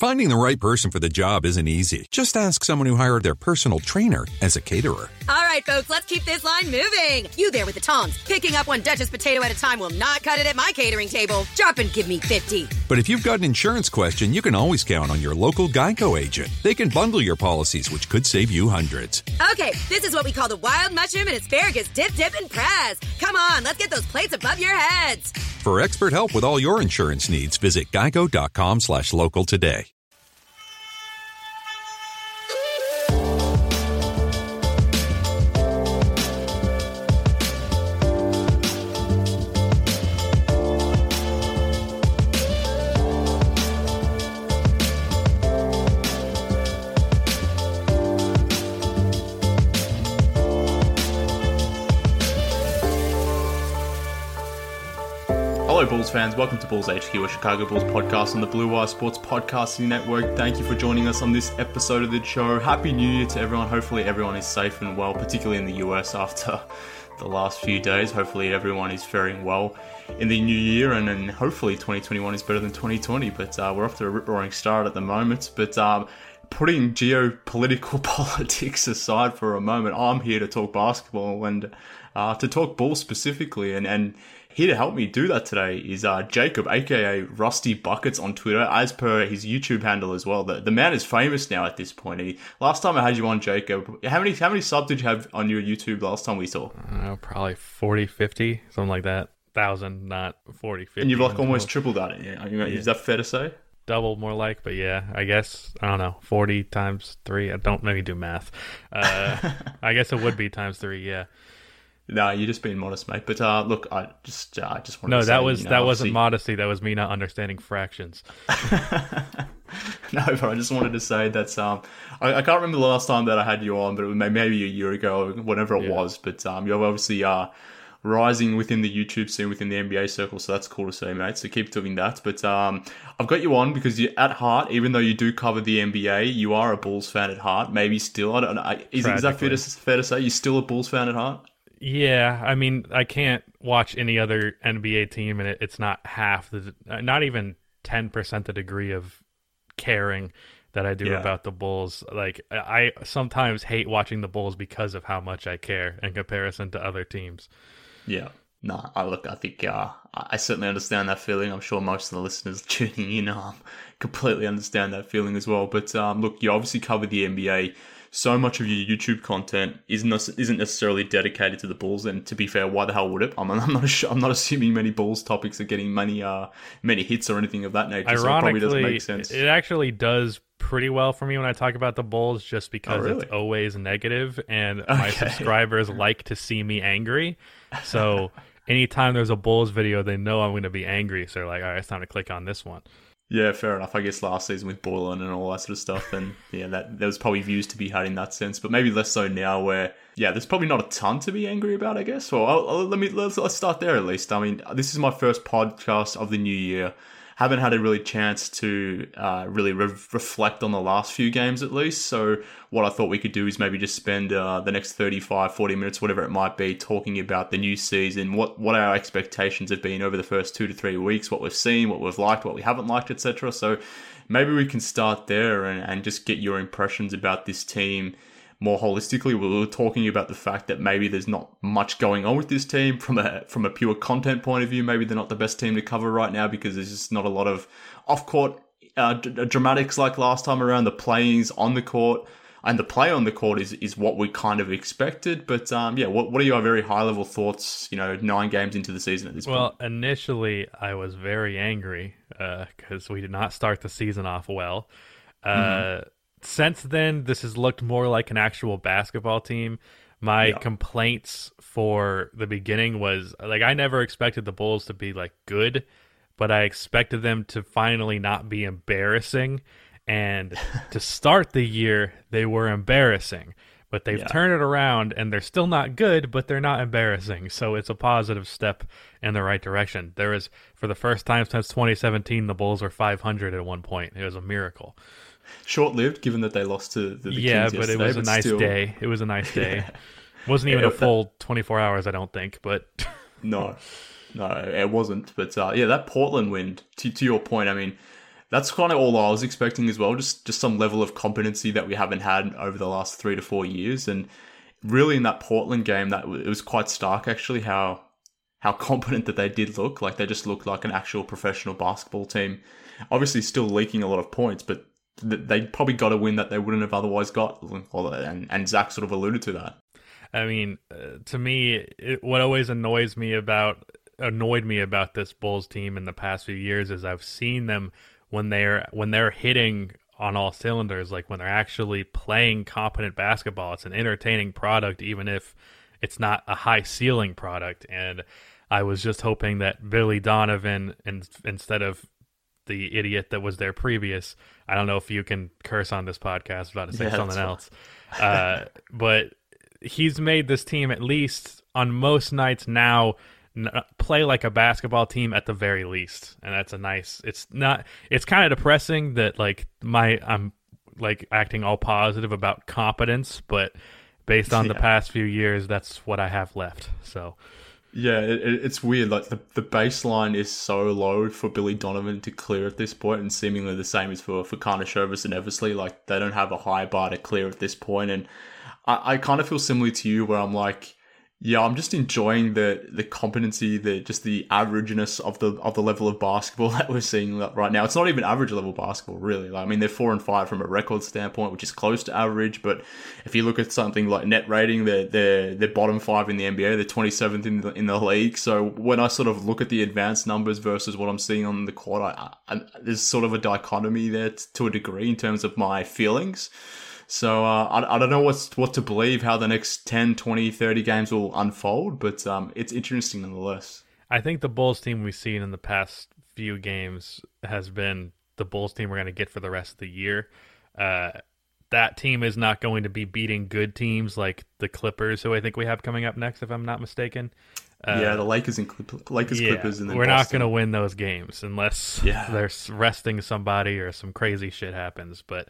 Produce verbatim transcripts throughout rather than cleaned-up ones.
Finding the right person for the job isn't easy. Just ask someone who hired their personal trainer as a caterer. All right, folks, let's keep this line moving. You there with the tongs. Picking up one Duchess potato at a time will not cut it at my catering table. Drop and give me fifty. But if you've got an insurance question, you can always count on your local Geico agent. They can bundle your policies, which could save you hundreds. Okay, this is what we call the wild mushroom and asparagus dip, dip, and press. Come on, let's get those plates above your heads. For expert help with all your insurance needs, visit geico.com slash local today. Hello Bulls fans, welcome to Bulls H Q, a Chicago Bulls podcast on the Blue Wire Sports Podcasting Network. Thank you for joining us on this episode of the show. Happy New Year to everyone. Hopefully everyone is safe and well, particularly in the U S after the last few days. Hopefully everyone is faring well in the new year, and, and hopefully twenty twenty-one is better than twenty twenty, but uh, we're off to a rip-roaring start at the moment. But um, putting geopolitical politics aside for a moment, I'm here to talk basketball and uh, to talk Bulls specifically, and, and here to help me do that today is uh, Jacob, aka Rusty Buckets on Twitter, as per his YouTube handle as well. The, the man is famous now at this point. He, last time I had you on, Jacob, how many how many subs did you have on your YouTube last time we saw? Uh, probably forty, fifty, something like that. Thousand, not forty, fifty. And you've like almost tripled that. Yeah. I mean, yeah. Is that fair to say? Double more like, but yeah, I guess, I don't know, forty times three. I don't maybe do math. Uh, I guess it would be times three, yeah. No, you're just being modest, mate. But uh, look, I just, uh, I just want no, to say, that was you know, that obviously... wasn't modesty. That was me not understanding fractions. No, but I just wanted to say that um, I, I can't remember the last time that I had you on, but it was maybe a year ago, or whatever it yeah. was. But um, you're obviously uh, rising within the YouTube scene, within the N B A circle, so that's cool to see, mate. So keep doing that. But um, I've got you on because you, at heart, even though you do cover the N B A, you are a Bulls fan at heart. Maybe still, I don't know. Is, is that fair to, fair to say? You're still a Bulls fan at heart? Yeah, I mean, I can't watch any other N B A team, and it, it's not half the, not even ten percent the degree of caring that I do yeah. about the Bulls. Like, I sometimes hate watching the Bulls because of how much I care in comparison to other teams. Yeah. No, I look, I think uh, I certainly understand that feeling. I'm sure most of the listeners tuning in um, completely understand that feeling as well. But um, look, you obviously cover the N B A. So much of your YouTube content isn't isn't necessarily dedicated to the Bulls, and to be fair, why the hell would it? I'm, I'm not I'm not assuming many Bulls topics are getting many uh many hits or anything of that nature. Ironically, so it probably doesn't make sense. It actually does pretty well for me when I talk about the Bulls, just because oh, really? It's always negative, and okay. my subscribers like to see me angry. So anytime there's a Bulls video, they know I'm going to be angry. So they're like, all right, it's time to click on this one. Yeah, fair enough. I guess last season with Boylan and all that sort of stuff, and yeah, that there was probably views to be had in that sense, but maybe less so now. Where yeah, there's probably not a ton to be angry about, I guess. Well, I'll, I'll, let me let's, let's start there at least. I mean, this is my first podcast of the new year. Haven't had a really chance to uh, really re- reflect on the last few games at least. So what I thought we could do is maybe just spend uh, the next thirty-five, forty minutes, whatever it might be, talking about the new season, what, what our expectations have been over the first two to three weeks, what we've seen, what we've liked, what we haven't liked, et cetera. So maybe we can start there and, and just get your impressions about this team more holistically. We were talking about the fact that maybe there's not much going on with this team from a from a pure content point of view. Maybe they're not the best team to cover right now because there's just not a lot of off-court uh, d- dramatics like last time around. The playing's on the court, and the play on the court is, is what we kind of expected. But um, yeah, what what are your very high-level thoughts, you know, nine games into the season at this well, point? Well, initially I was very angry because uh, we did not start the season off well. Uh, mm-hmm. Since then, this has looked more like an actual basketball team. My yeah. complaints for the beginning was, like, I never expected the Bulls to be, like, good, but I expected them to finally not be embarrassing. And to start the year, they were embarrassing. But they've yeah. turned it around, and they're still not good, but they're not embarrassing. So it's a positive step in the right direction. There was, for the first time since twenty seventeen, the Bulls were five hundred at one point. It was a miracle. Short-lived, given that they lost to the, the yeah, Kings but it was a nice still... day. It was a nice day. yeah. Wasn't even yeah, a full twenty-four hours, I don't think. But no, no, it wasn't. But uh, yeah, that Portland win. To, to your point, I mean, that's kind of all I was expecting as well. Just just some level of competency that we haven't had over the last three to four years. And really in that Portland game, that it was quite stark actually how how competent that they did look. Like they just looked like an actual professional basketball team. Obviously still leaking a lot of points, but they probably got a win that they wouldn't have otherwise got. And, and Zach sort of alluded to that. I mean, uh, to me, it, what always annoys me about annoyed me about this Bulls team in the past few years is I've seen them when they're when they're hitting on all cylinders, like when they're actually playing competent basketball. It's an entertaining product, even if it's not a high ceiling product. And I was just hoping that Billy Donovan, and instead of the idiot that was there previous, I don't know if you can curse on this podcast, I'm about to say yeah, something else, uh, but he's made this team at least on most nights now play like a basketball team at the very least. And that's a nice, it's not, it's kind of depressing that like my, I'm like acting all positive about competence, but based on yeah. the past few years, that's what I have left. So yeah, it, it's weird. Like the, the baseline is so low for Billy Donovan to clear at this point, and seemingly the same is for, for Karnisovas and Eversley. Like they don't have a high bar to clear at this point. And I, I kind of feel similar to you where I'm like, yeah, I'm just enjoying the the competency, the just the averageness of the of the level of basketball that we're seeing right now. It's not even average level basketball, really. Like, I mean, they're four and five from a record standpoint, which is close to average. But if you look at something like net rating, they're they're, they're bottom five in the N B A. They're twenty-seventh in the in the league. So when I sort of look at the advanced numbers versus what I'm seeing on the court, I, I, there's sort of a dichotomy there t- to a degree in terms of my feelings. So uh, I, I don't know what's, what to believe, how the next ten, twenty, thirty games will unfold, but um, it's interesting nonetheless. I think the Bulls team we've seen in the past few games has been the Bulls team we're going to get for the rest of the year. Uh, that team is not going to be beating good teams like the Clippers, who I think we have coming up next, if I'm not mistaken. Uh, yeah, the Lakers and Clip- Lakers, yeah, Clippers, and then we're Boston. not going to win those games unless yeah. they're resting somebody or some crazy shit happens. But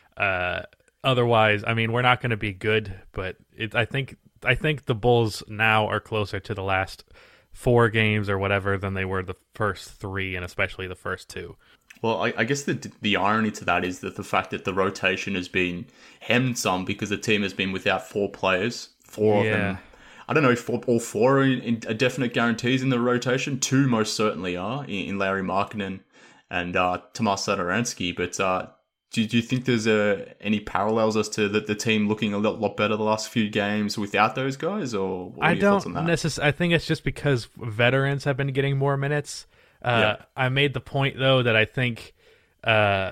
uh, otherwise, I mean, we're not going to be good. But it, I think I think the Bulls now are closer to the last four games or whatever than they were the first three, and especially the first two. Well, I, I guess the the irony to that is that the fact that the rotation has been hemmed some because the team has been without four players, four yeah. of them. I don't know if all four are in, in definite guarantees in the rotation. Two most certainly are, in, in Larry Markkanen and uh, Tomas Satoransky. But uh, do, do you think there's uh, any parallels as to the, the team looking a lot, lot better the last few games without those guys? Or what are I your don't thoughts on that? necessarily. I think it's just because veterans have been getting more minutes. Uh, yeah. I made the point, though, that I think uh,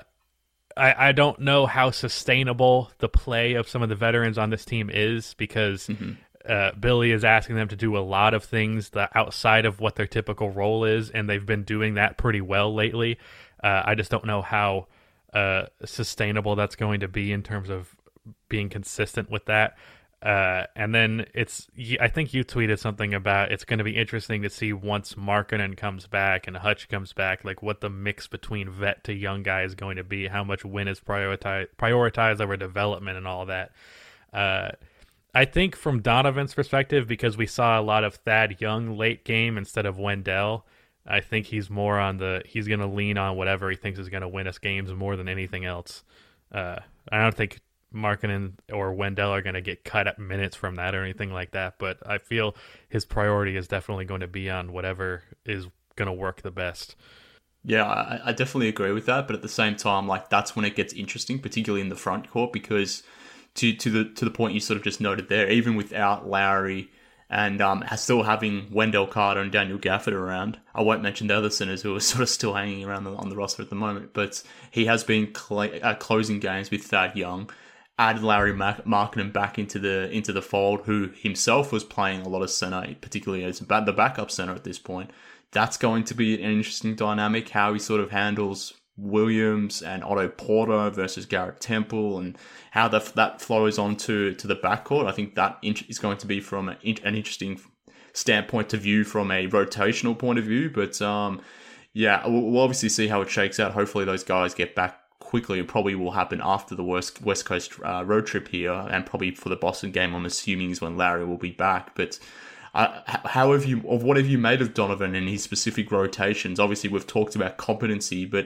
I, I don't know how sustainable the play of some of the veterans on this team is because mm-hmm. uh, Billy is asking them to do a lot of things that outside of what their typical role is, and they've been doing that pretty well lately. Uh, I just don't know how uh, sustainable that's going to be in terms of being consistent with that. Uh, and then it's, I think you tweeted something about it's going to be interesting to see once Markkanen comes back and Hutch comes back, like what the mix between vet to young guy is going to be, how much win is prioritize, prioritized over development and all that. Uh, I think from Donovan's perspective, because we saw a lot of Thad Young late game instead of Wendell, I think he's more on the, he's going to lean on whatever he thinks is going to win us games more than anything else. Uh, I don't think Markkanen or Wendell are going to get cut at minutes from that or anything like that, but I feel his priority is definitely going to be on whatever is going to work the best. Yeah, I, I definitely agree with that, but at the same time, like that's when it gets interesting, particularly in the front court, because to to the to the point you sort of just noted there, even without Lowry and um, still having Wendell Carter and Daniel Gafford around, I won't mention the other centers who are sort of still hanging around the, on the roster at the moment, but he has been cl- uh, closing games with Thad Young. Added Larry Markkanen back into the into the fold, who himself was playing a lot of center, particularly as the backup center at this point. That's going to be an interesting dynamic, how he sort of handles Williams and Otto Porter versus Garrett Temple, and how that that flows onto to the backcourt. I think that is going to be from an interesting standpoint to view from a rotational point of view. But um, yeah, we'll obviously see how it shakes out. Hopefully those guys get back quickly. It probably will happen after the West West Coast uh, road trip here, and probably for the Boston game, I'm assuming, is when Larry will be back. But uh, how have you, of what have you made of Donovan and his specific rotations? Obviously, we've talked about competency, but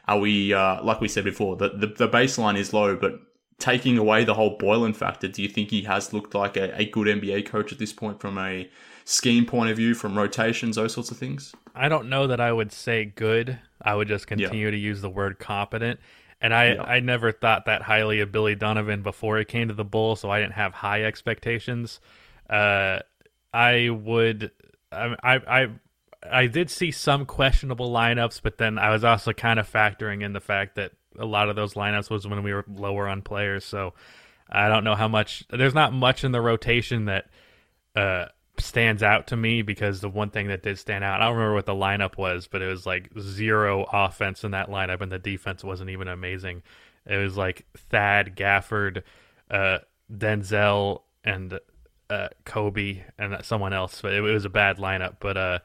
Are we, uh, like we said before, the, the, the baseline is low, but taking away the whole Boylen factor, do you think he has looked like a, a good N B A coach at this point from a scheme point of view, from rotations, those sorts of things? I don't know that I would say good. I would just continue yeah. to use the word competent. And I, yeah. I never thought that highly of Billy Donovan before he came to the Bulls, so I didn't have high expectations. Uh, I would, I, I, I did see some questionable lineups, but then I was also kind of factoring in the fact that a lot of those lineups was when we were lower on players. So I don't know how much, there's not much in the rotation that uh, stands out to me, because the one thing that did stand out, I don't remember what the lineup was, but it was like zero offense in that lineup, and the defense wasn't even amazing. It was like Thad, Gafford, uh, Denzel, and uh, Kobe, and someone else. But it, it was a bad lineup. But uh,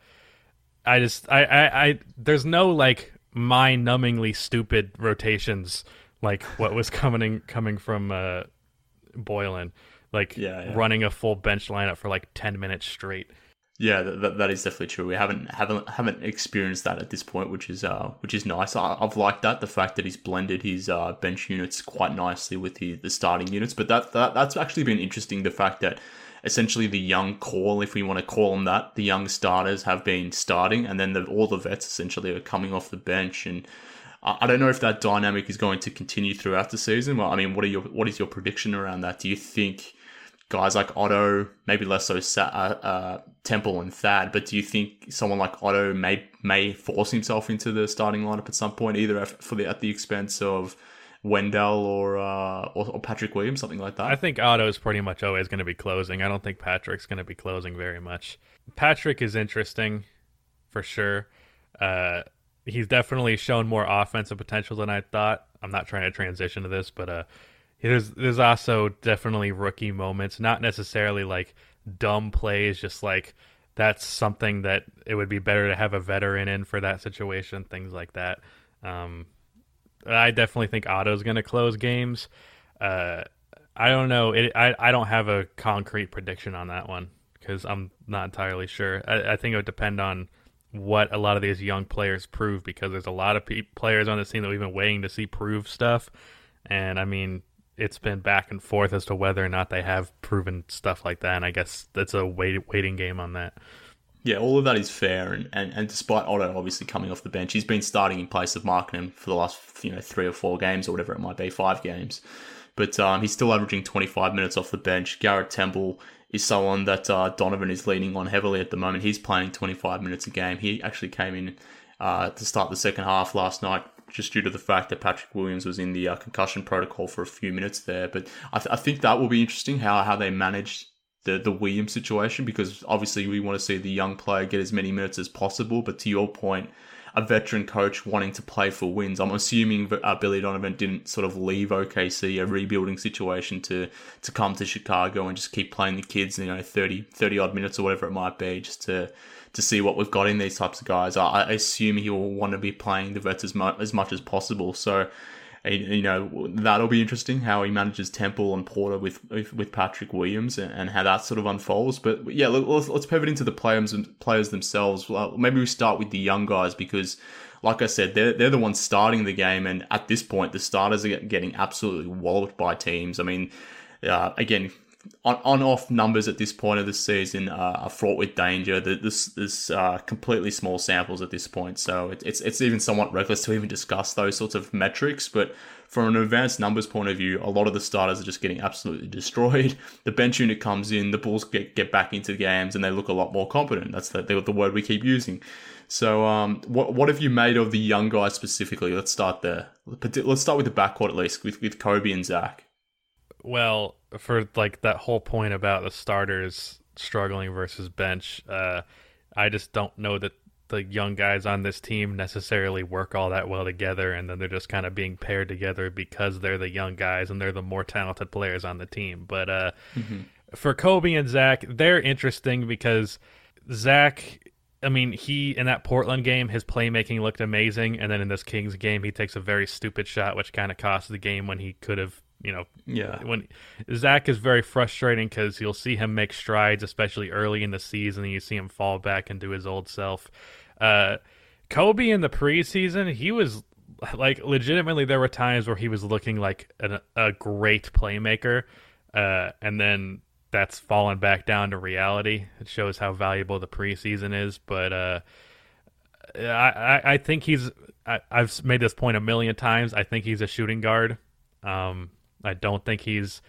I just, I, I, I, there's no like mind-numbingly stupid rotations like what was coming coming from uh, Boylen. Like yeah, yeah. running a full bench lineup for like ten minutes straight. Yeah, that, that is definitely true. We haven't haven't haven't experienced that at this point, which is uh which is nice. I, I've liked that, the fact that he's blended his uh, bench units quite nicely with the, the starting units. But that, that that's actually been interesting. The fact that essentially the young core, if we want to call them that, the young starters have been starting, and then the, all the vets essentially are coming off the bench. And I, I don't know if that dynamic is going to continue throughout the season. Well, I mean, what are your what is your prediction around that? Do you think guys like Otto, maybe less so uh, uh, Temple and Thad, but do you think someone like Otto may may force himself into the starting lineup at some point, either for the at the expense of Wendell or, uh, or or Patrick Williams, something like that? I think Otto is pretty much always going to be closing. I don't think Patrick's going to be closing very much. Patrick is interesting, for sure. Uh, he's definitely shown more offensive potential than I thought. I'm not trying to transition to this, but uh, There's there's also definitely rookie moments, not necessarily like dumb plays, just like that's something that it would be better to have a veteran in for that situation, things like that. Um, I definitely think Otto's going to close games. Uh, I don't know. It, I, I don't have a concrete prediction on that one because I'm not entirely sure. I, I think it would depend on what a lot of these young players prove, because there's a lot of pe- players on this team that we've been waiting to see prove stuff. And I mean, it's been back and forth as to whether or not they have proven stuff like that, and I guess that's a wait, waiting game on that. Yeah, all of that is fair, and, and, and despite Otto obviously coming off the bench, he's been starting in place of Markkanen for the last you know three or four games or whatever it might be, five games. But um, he's still averaging twenty-five minutes off the bench. Garrett Temple is someone that uh, Donovan is leaning on heavily at the moment. He's playing twenty-five minutes a game. He actually came in uh, to start the second half last night, just due to the fact that Patrick Williams was in the uh, concussion protocol for a few minutes there. But I, th- I think that will be interesting, how how they manage the, the Williams situation, because obviously we want to see the young player get as many minutes as possible. But to your point, a veteran coach wanting to play for wins, I'm assuming uh, Billy Donovan didn't sort of leave O K C, a rebuilding situation, to to come to Chicago and just keep playing the kids, you know, thirty, thirty odd minutes or whatever it might be, just to to see what we've got in these types of guys. I, I assume he will want to be playing the vets as much, as much as possible. So, you know, that'll be interesting, how he manages Temple and Porter with with, with Patrick Williams, and, and how that sort of unfolds. But yeah, let's, let's pivot into the players players themselves. Well, maybe we start with the young guys, because like I said, they're, they're the ones starting the game. And at this point, the starters are getting absolutely walloped by teams. I mean, uh, again, On, on-off numbers at this point of the season uh, are fraught with danger. This this uh, completely small samples at this point, so it, it's it's even somewhat reckless to even discuss those sorts of metrics. But from an advanced numbers point of view, a lot of the starters are just getting absolutely destroyed. The bench unit comes in, the Bulls get, get back into the games, and they look a lot more competent. That's the, the word we keep using. So um, what what have you made of the young guys specifically? Let's start there. Let's start with the backcourt at least, with, with Kobe and Zach. Well, for like that whole point about the starters struggling versus bench, uh, I just don't know that the young guys on this team necessarily work all that well together, and then they're just kind of being paired together because they're the young guys and they're the more talented players on the team. But uh, mm-hmm. for Kobe and Zach, they're interesting because Zach, I mean, he, in that Portland game, his playmaking looked amazing, and then in this Kings game, he takes a very stupid shot, which kind of cost the game when he could have, you know, yeah. When Zach is very frustrating because you'll see him make strides, especially early in the season, and you see him fall back into his old self. Uh, Kobe in the preseason, he was like legitimately there were times where he was looking like an, a great playmaker, uh, and then that's fallen back down to reality. It shows how valuable the preseason is, but uh, I, I, I think he's. I, I've made this point a million times. I think he's a shooting guard. Um, I don't think he's.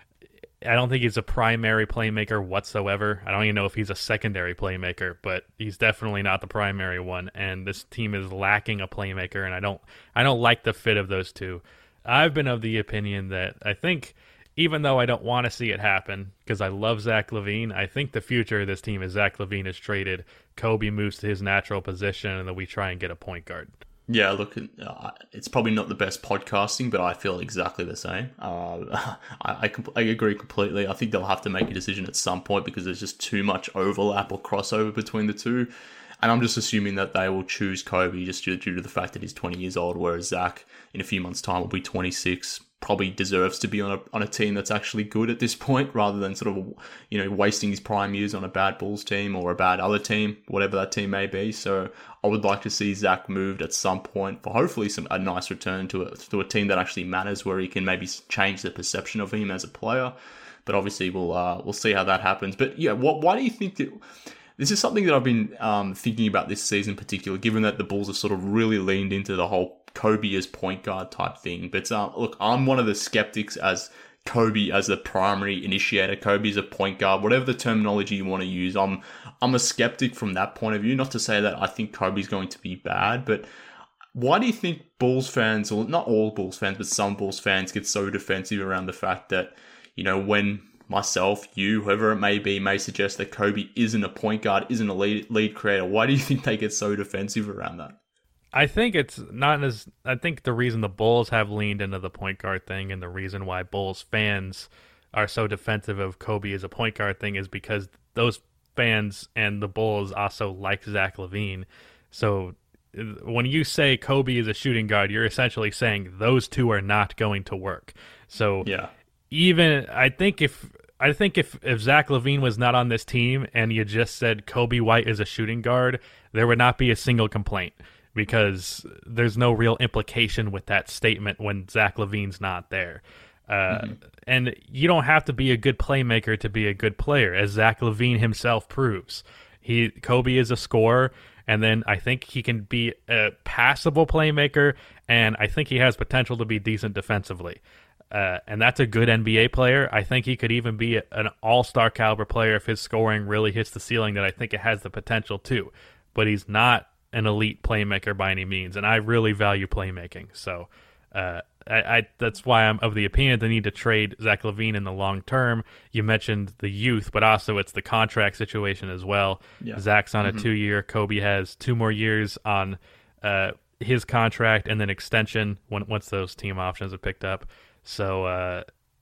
I don't think he's a primary playmaker whatsoever. I don't even know if he's a secondary playmaker, but he's definitely not the primary one. And this team is lacking a playmaker, and I don't. I don't like the fit of those two. I've been of the opinion that I think, even though I don't want to see it happen because I love Zach LaVine, I think the future of this team is Zach LaVine is traded, Kobe moves to his natural position, and then we try and get a point guard. Yeah, look, uh, it's probably not the best podcasting, but I feel exactly the same. Uh, I, I, I agree completely. I think they'll have to make a decision at some point because there's just too much overlap or crossover between the two. And I'm just assuming that they will choose Kobe just due, due to the fact that he's twenty years old, whereas Zach, in a few months' time, will be twenty-six. Probably deserves to be on a on a team that's actually good at this point, rather than sort of, you know, wasting his prime years on a bad Bulls team or a bad other team, whatever that team may be. So I would like to see Zach moved at some point for hopefully some a nice return to a to a team that actually matters, where he can maybe change the perception of him as a player. But obviously we'll uh, we'll see how that happens. But yeah, what why do you think that? This is something that I've been um, thinking about this season in particular, given that the Bulls have sort of really leaned into the whole Kobe as point guard type thing. But uh, look, I'm one of the skeptics as Kobe as the primary initiator, Kobe as a point guard, whatever the terminology you want to use. I'm I'm a skeptic from that point of view. Not to say that I think Kobe's going to be bad, but why do you think Bulls fans, or not all Bulls fans, but some Bulls fans get so defensive around the fact that, you know, when myself, you, whoever it may be, may suggest that Kobe isn't a point guard, isn't a lead, lead creator, why do you think they get so defensive around that? I think it's not as. I think the reason the Bulls have leaned into the point guard thing, and the reason why Bulls fans are so defensive of Kobe as a point guard thing, is because those fans and the Bulls also like Zach LaVine. So when you say Kobe is a shooting guard, you're essentially saying those two are not going to work. So yeah. Even I think if I think if, if Zach LaVine was not on this team and you just said Kobe White is a shooting guard, there would not be a single complaint, because there's no real implication with that statement when Zach LaVine's not there. Uh, mm-hmm. And you don't have to be a good playmaker to be a good player, as Zach LaVine himself proves. He Kobe is a scorer, and then I think he can be a passable playmaker, and I think he has potential to be decent defensively. Uh, and that's a good N B A player. I think he could even be a, an all-star caliber player if his scoring really hits the ceiling that I think it has the potential to. But he's not an elite playmaker by any means, and I really value playmaking. So uh, I, I that's why I'm of the opinion they need to trade Zach LaVine in the long term. You mentioned the youth, but also it's the contract situation as well. Yeah. Zach's on mm-hmm. a two-year. Kobe has two more years on uh, his contract and then extension when once those team options are picked up. So, uh,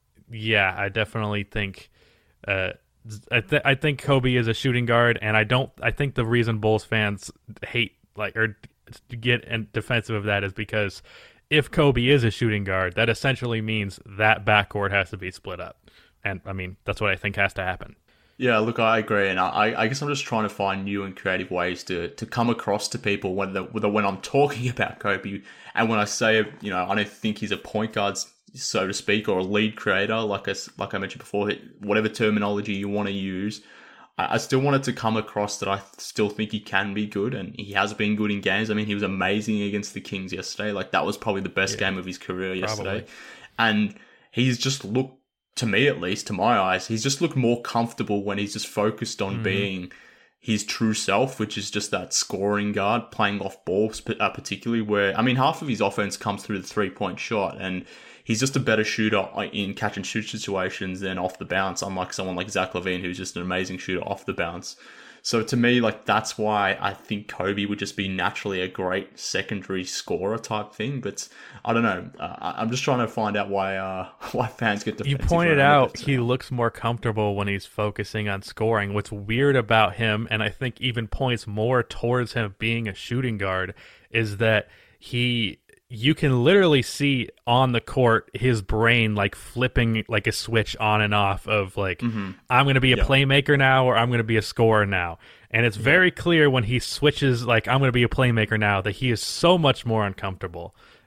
yeah, I definitely think uh, I, th- I think Kobe is a shooting guard, and I don't. I think the reason Bulls fans hate like or get defensive of that is because if Kobe is a shooting guard, that essentially means that backcourt has to be split up, and I mean that's what I think has to happen. Yeah, look, I agree, and I, I guess I'm just trying to find new and creative ways to, to come across to people when the, when I'm talking about Kobe, and when I say, you know, I don't think he's a point guard, so to speak, or a lead creator, like I, like I mentioned before, whatever terminology you want to use, I, I still want it to come across that I still think he can be good, and he has been good in games. I mean, he was amazing against the Kings yesterday. Like, that was probably the best yeah, game of his career yesterday. Probably. And he's just looked, to me at least, to my eyes, he's just looked more comfortable when he's just focused on mm-hmm. being his true self, which is just that scoring guard, playing off balls, uh, particularly where, I mean, half of his offense comes through the three-point shot, and he's just a better shooter in catch-and-shoot situations than off the bounce, unlike someone like Zach LaVine, who's just an amazing shooter off the bounce. So to me, like, that's why I think Kobe would just be naturally a great secondary scorer type thing. But I don't know. Uh, I'm just trying to find out why uh, why fans get defensive. You pointed out he looks more comfortable when he's focusing on scoring. What's weird about him, and I think even points more towards him being a shooting guard, is that he... you can literally see on the court his brain like flipping like a switch on and off of like, mm-hmm. I'm going to be a yep. playmaker now, or I'm going to be a scorer now. And it's yep. very clear when he switches, like, I'm going to be a playmaker now, that he is so much more uncomfortable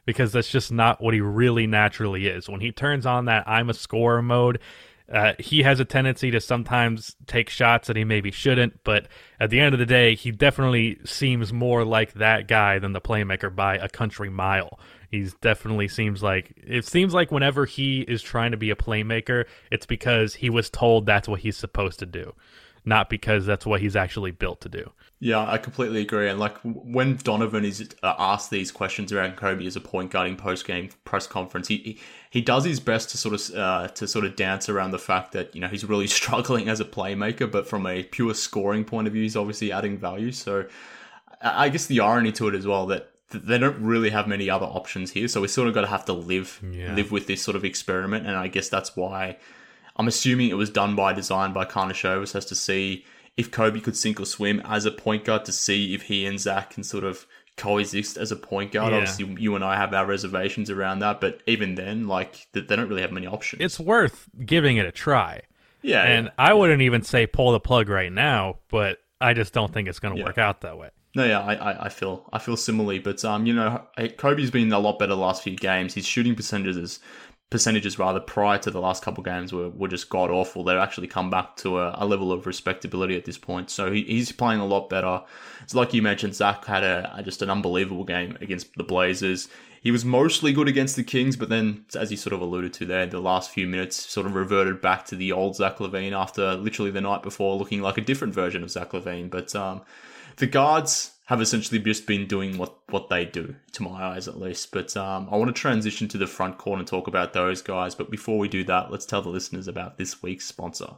because that's just not what he really naturally is. When he turns on that I'm a scorer mode, uh, he has a tendency to sometimes take shots that he maybe shouldn't, but at the end of the day, he definitely seems more like that guy than the playmaker by a country mile. He's definitely seems like, it seems like whenever he is trying to be a playmaker, it's because he was told that's what he's supposed to do, not because that's what he's actually built to do. Yeah, I completely agree. And like when Donovan is uh, asked these questions around Kobe as a point guard in post-game press conference, he, he he does his best to sort of uh, to sort of dance around the fact that, you know, he's really struggling as a playmaker, but from a pure scoring point of view, he's obviously adding value. So I guess the irony to it as well that they don't really have many other options here. So we sort of got to have to live yeah. live with this sort of experiment. And I guess that's why I'm assuming it was done by design by Karnisovas, as to see if Kobe could sink or swim as a point guard, to see if he and Zach can sort of coexist as a point guard. Yeah. Obviously, you and I have our reservations around that, but even then, like, they don't really have many options. It's worth giving it a try. Yeah. And yeah. I wouldn't even say pull the plug right now, but I just don't think it's going to Yeah. work out that way. No, yeah, I, I, I feel I feel similarly, but um, you know, Kobe's been a lot better the last few games. His shooting percentages, percentages rather, prior to the last couple games were, were just god awful. They've actually come back to a, a level of respectability at this point. So he, he's playing a lot better. It's like you mentioned, Zach had a, a just an unbelievable game against the Blazers. He was mostly good against the Kings, but then, as you sort of alluded to there, the last few minutes sort of reverted back to the old Zach LaVine after literally the night before looking like a different version of Zach LaVine. But um, the guards have essentially just been doing what, what they do, to my eyes at least. But um, I want to transition to the front court and talk about those guys. But before we do that, let's tell the listeners about this week's sponsor.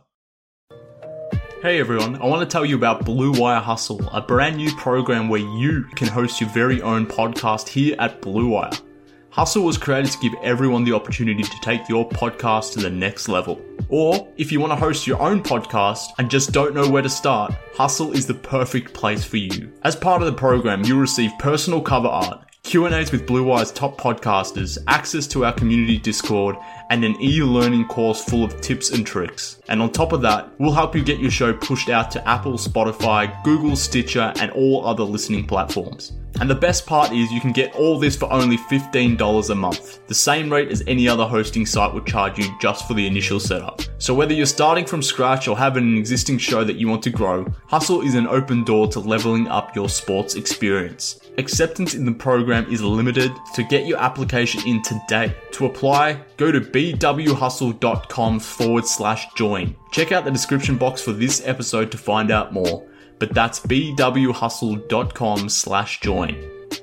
Hey everyone, I want to tell you about Blue Wire Hustle, a brand new program where you can host your very own podcast here at Blue Wire. Hustle was created to give everyone the opportunity to take your podcast to the next level. Or, if you want to host your own podcast and just don't know where to start, Hustle is the perfect place for you. As part of the program, you'll receive personal cover art, Q and A's with Blue Wire's top podcasters, access to our community Discord, and an e-learning course full of tips and tricks. And on top of that, we'll help you get your show pushed out to Apple, Spotify, Google, Stitcher, and all other listening platforms. And the best part is you can get all this for only fifteen dollars a month, the same rate as any other hosting site would charge you just for the initial setup. So whether you're starting from scratch or have an existing show that you want to grow, Hustle is an open door to leveling up your sports experience. Acceptance in the program is limited, so get your application in today. To apply, go to bwhustle.com forward slash join. Check out the description box for this episode to find out more. But that's bwhustle.com slash join.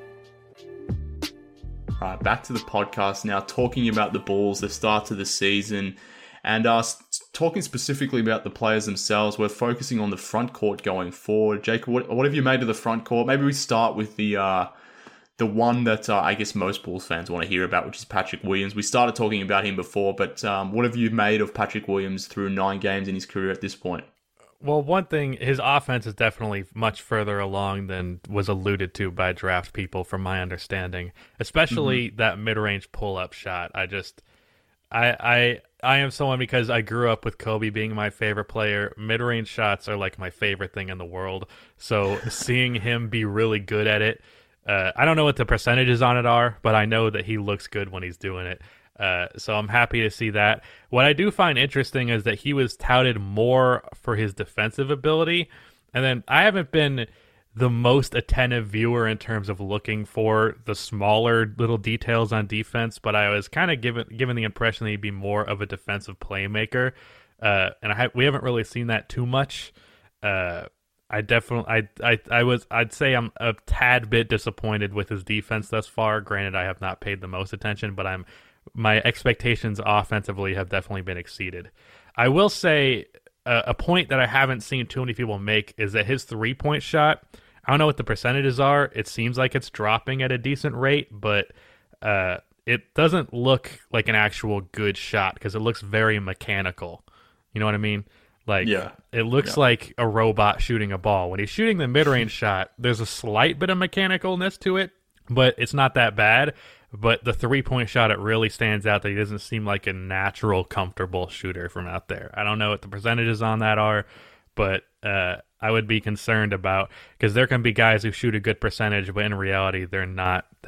Alright, back to the podcast now, talking about the Bulls, the start to the season, and uh, talking specifically about the players themselves. We're focusing on the front court going forward. Jacob, what, what have you made of the front court? Maybe we start with the uh, the one that uh, I guess most Bulls fans want to hear about, which is Patrick Williams. We started talking about him before, but um, what have you made of Patrick Williams through nine games in his career at this point? Well, one thing, his offense is definitely much further along than was alluded to by draft people, from my understanding. Especially mm-hmm. that mid-range pull-up shot. I just, I, I, I am someone, because I grew up with Kobe being my favorite player. Mid-range shots are like my favorite thing in the world. So seeing him be really good at it, uh, I don't know what the percentages on it are, but I know that he looks good when he's doing it. Uh, so I'm happy to see that. What I do find interesting is that he was touted more for his defensive ability. And then I haven't been the most attentive viewer in terms of looking for the smaller little details on defense, but I was kind of given given the impression that he'd be more of a defensive playmaker. Uh, and I ha- we haven't really seen that too much. Uh, I definitely, I, I, I was, I'd say I'm a tad bit disappointed with his defense thus far. Granted, I have not paid the most attention, but I'm my expectations offensively have definitely been exceeded. I will say uh, a point that I haven't seen too many people make is that his three-point shot, I don't know what the percentages are. It seems like it's dropping at a decent rate, but uh, it doesn't look like an actual good shot because it looks very mechanical. You know what I mean? Like, yeah. it looks yeah. like a robot shooting a ball. When he's shooting the mid-range shot, there's a slight bit of mechanicalness to it, but it's not that bad. But the three-point shot, it really stands out that he doesn't seem like a natural, comfortable shooter from out there. I don't know what the percentages on that are, but uh, I would be concerned about, because there can be guys who shoot a good percentage, but in reality, they're not that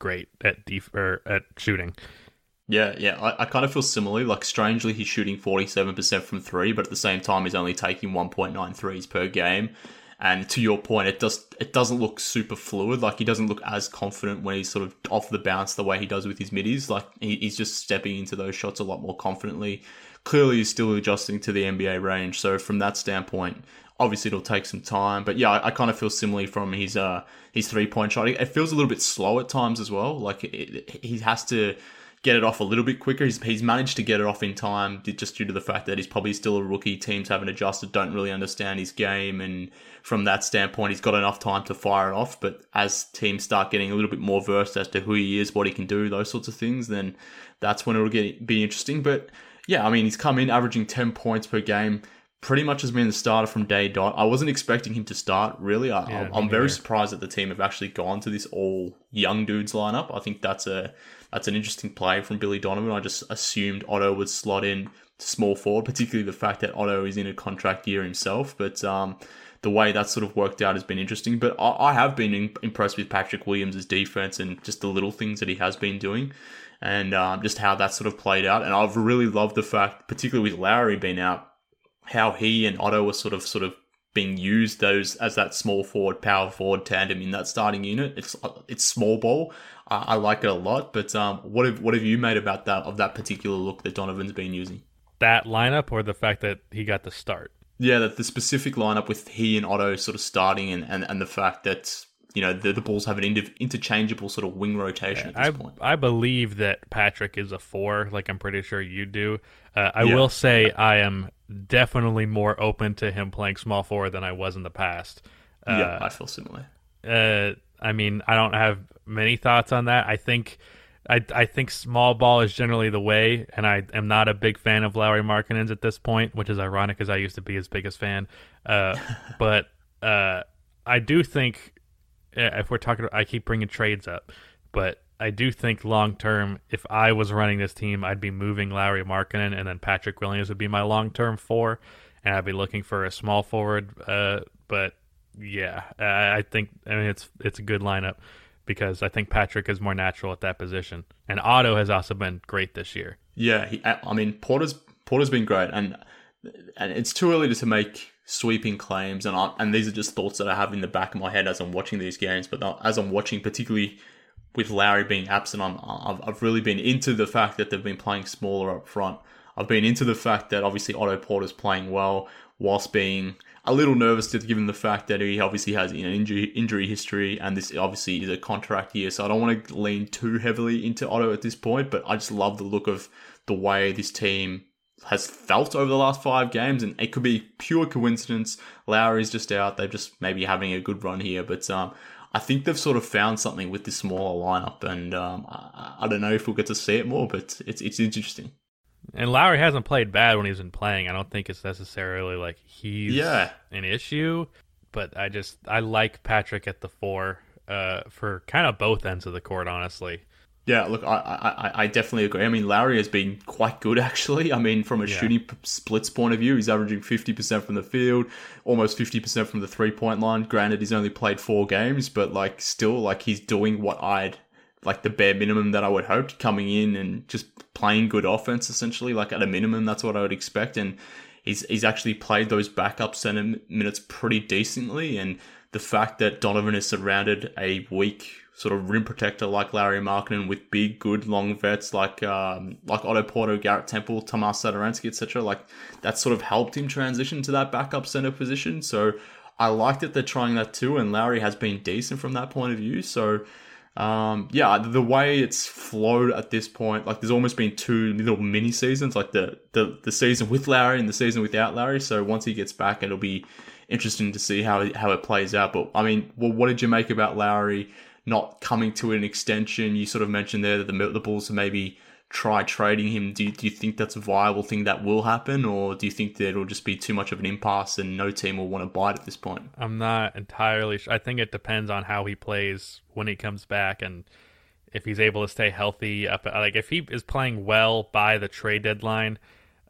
great at def- or at shooting. Yeah, yeah, I, I kind of feel similarly. Like, strangely, he's shooting forty-seven percent from three, but at the same time, he's only taking one point nine threes per game. And to your point, it does it doesn't look super fluid. Like, he doesn't look as confident when he's sort of off the bounce the way he does with his middies. Like, he, he's just stepping into those shots a lot more confidently. Clearly, he's still adjusting to the N B A range. So from that standpoint, obviously it'll take some time. But yeah, I, I kind of feel similarly from his uh his three point shot. It feels a little bit slow at times as well. Like, it, it, he has to get it off a little bit quicker. He's, he's managed to get it off in time just due to the fact that he's probably still a rookie. Teams haven't adjusted, don't really understand his game. And from that standpoint, he's got enough time to fire it off. But as teams start getting a little bit more versed as to who he is, what he can do, those sorts of things, then that's when it'll get be interesting. But yeah, I mean, he's come in averaging ten points per game. Pretty much has been the starter from day dot. I wasn't expecting him to start, really. I, Yeah, I'm me very neither. surprised that the team have actually gone to this all young dudes lineup. I think that's a that's an interesting play from Billy Donovan. I just assumed Otto would slot in to small forward, particularly the fact that Otto is in a contract year himself. But um, the way that sort of worked out has been interesting. But I, I have been in, impressed with Patrick Williams' defense and just the little things that he has been doing, and um, just how that sort of played out. And I've really loved the fact, particularly with Lowry being out, how he and Otto were sort of sort of being used those as that small forward, power forward tandem in that starting unit. It's it's small ball. I, I like it a lot. But um, what have what have you made about that of that particular look that Donovan's been using? That lineup, or the fact that he got the start? Yeah, that the specific lineup with he and Otto sort of starting, and, and, and the fact that, you know, the, the Bulls have an inter- interchangeable sort of wing rotation at this I point. I believe that Patrick is a four, like I'm pretty sure you do. Uh, I Yeah. will say I am definitely more open to him playing small forward than I was in the past. Uh, yeah, I feel similar. Uh, I mean, I don't have many thoughts on that. I think, I I think small ball is generally the way, and I am not a big fan of Lauri Markkanen's at this point, which is ironic because I used to be his biggest fan. Uh, but uh, I do think, uh, if we're talking, I keep bringing trades up, but I do think long term, if I was running this team, I'd be moving Lauri Markkanen, and then Patrick Williams would be my long term four, and I'd be looking for a small forward. Uh, but yeah, I, I think I mean it's it's a good lineup because I think Patrick is more natural at that position, and Otto has also been great this year. Yeah, he, I mean, Porter's Porter's been great, and and it's too early to make sweeping claims, and I, and these are just thoughts that I have in the back of my head as I'm watching these games. But as I'm watching, particularly with Lowry being absent, I'm, I've I've really been into the fact that they've been playing smaller up front. I've been into the fact that obviously Otto Porter's playing well, whilst being a little nervous to given the fact that he obviously has an injury injury history, and this obviously is a contract year. So I don't want to lean too heavily into Otto at this point, but I just love the look of the way this team has felt over the last five games, and it could be pure coincidence. Lowry's just out; they're just maybe having a good run here, but um. I think they've sort of found something with this smaller lineup, and um, I, I don't know if we'll get to see it more, but it's it's interesting. And Lowry hasn't played bad when he's been playing. I don't think it's necessarily like he's Yeah. an issue, but I just I like Patrick at the four uh, for kind of both ends of the court, honestly. Yeah, look, I, I I definitely agree. I mean, Lowry has been quite good, actually. I mean, from a Yeah. shooting p- splits point of view, he's averaging fifty percent from the field, almost fifty percent from the three-point line. Granted, he's only played four games, but, like, still, like, he's doing what I'd, like, the bare minimum that I would hope, coming in and just playing good offense, essentially. Like, at a minimum, that's what I would expect. And he's he's actually played those backup center minutes pretty decently. And the fact that Donovan has surrounded a weak sort of rim protector like Lauri Markkanen with big, good, long vets like um, like Otto Porter, Garrett Temple, Tomas Satoransky, et cetera. Like, that sort of helped him transition to that backup center position. So I like that they're trying that too, and Lowry has been decent from that point of view. So um, yeah, the way it's flowed at this point, like, there's almost been two little mini seasons, like the the, the season with Lowry and the season without Lowry. So once he gets back, it'll be interesting to see how it, how it plays out. But I mean, well, what did you make about Lowry not coming to an extension? You sort of mentioned there that the, the Bulls have maybe try trading him. Do you, do you think that's a viable thing that will happen, or do you think that it'll just be too much of an impasse and no team will want to bite at this point? I'm not entirely sure. I think it depends on how he plays when he comes back, and if he's able to stay healthy. Up, like, if he is playing well by the trade deadline,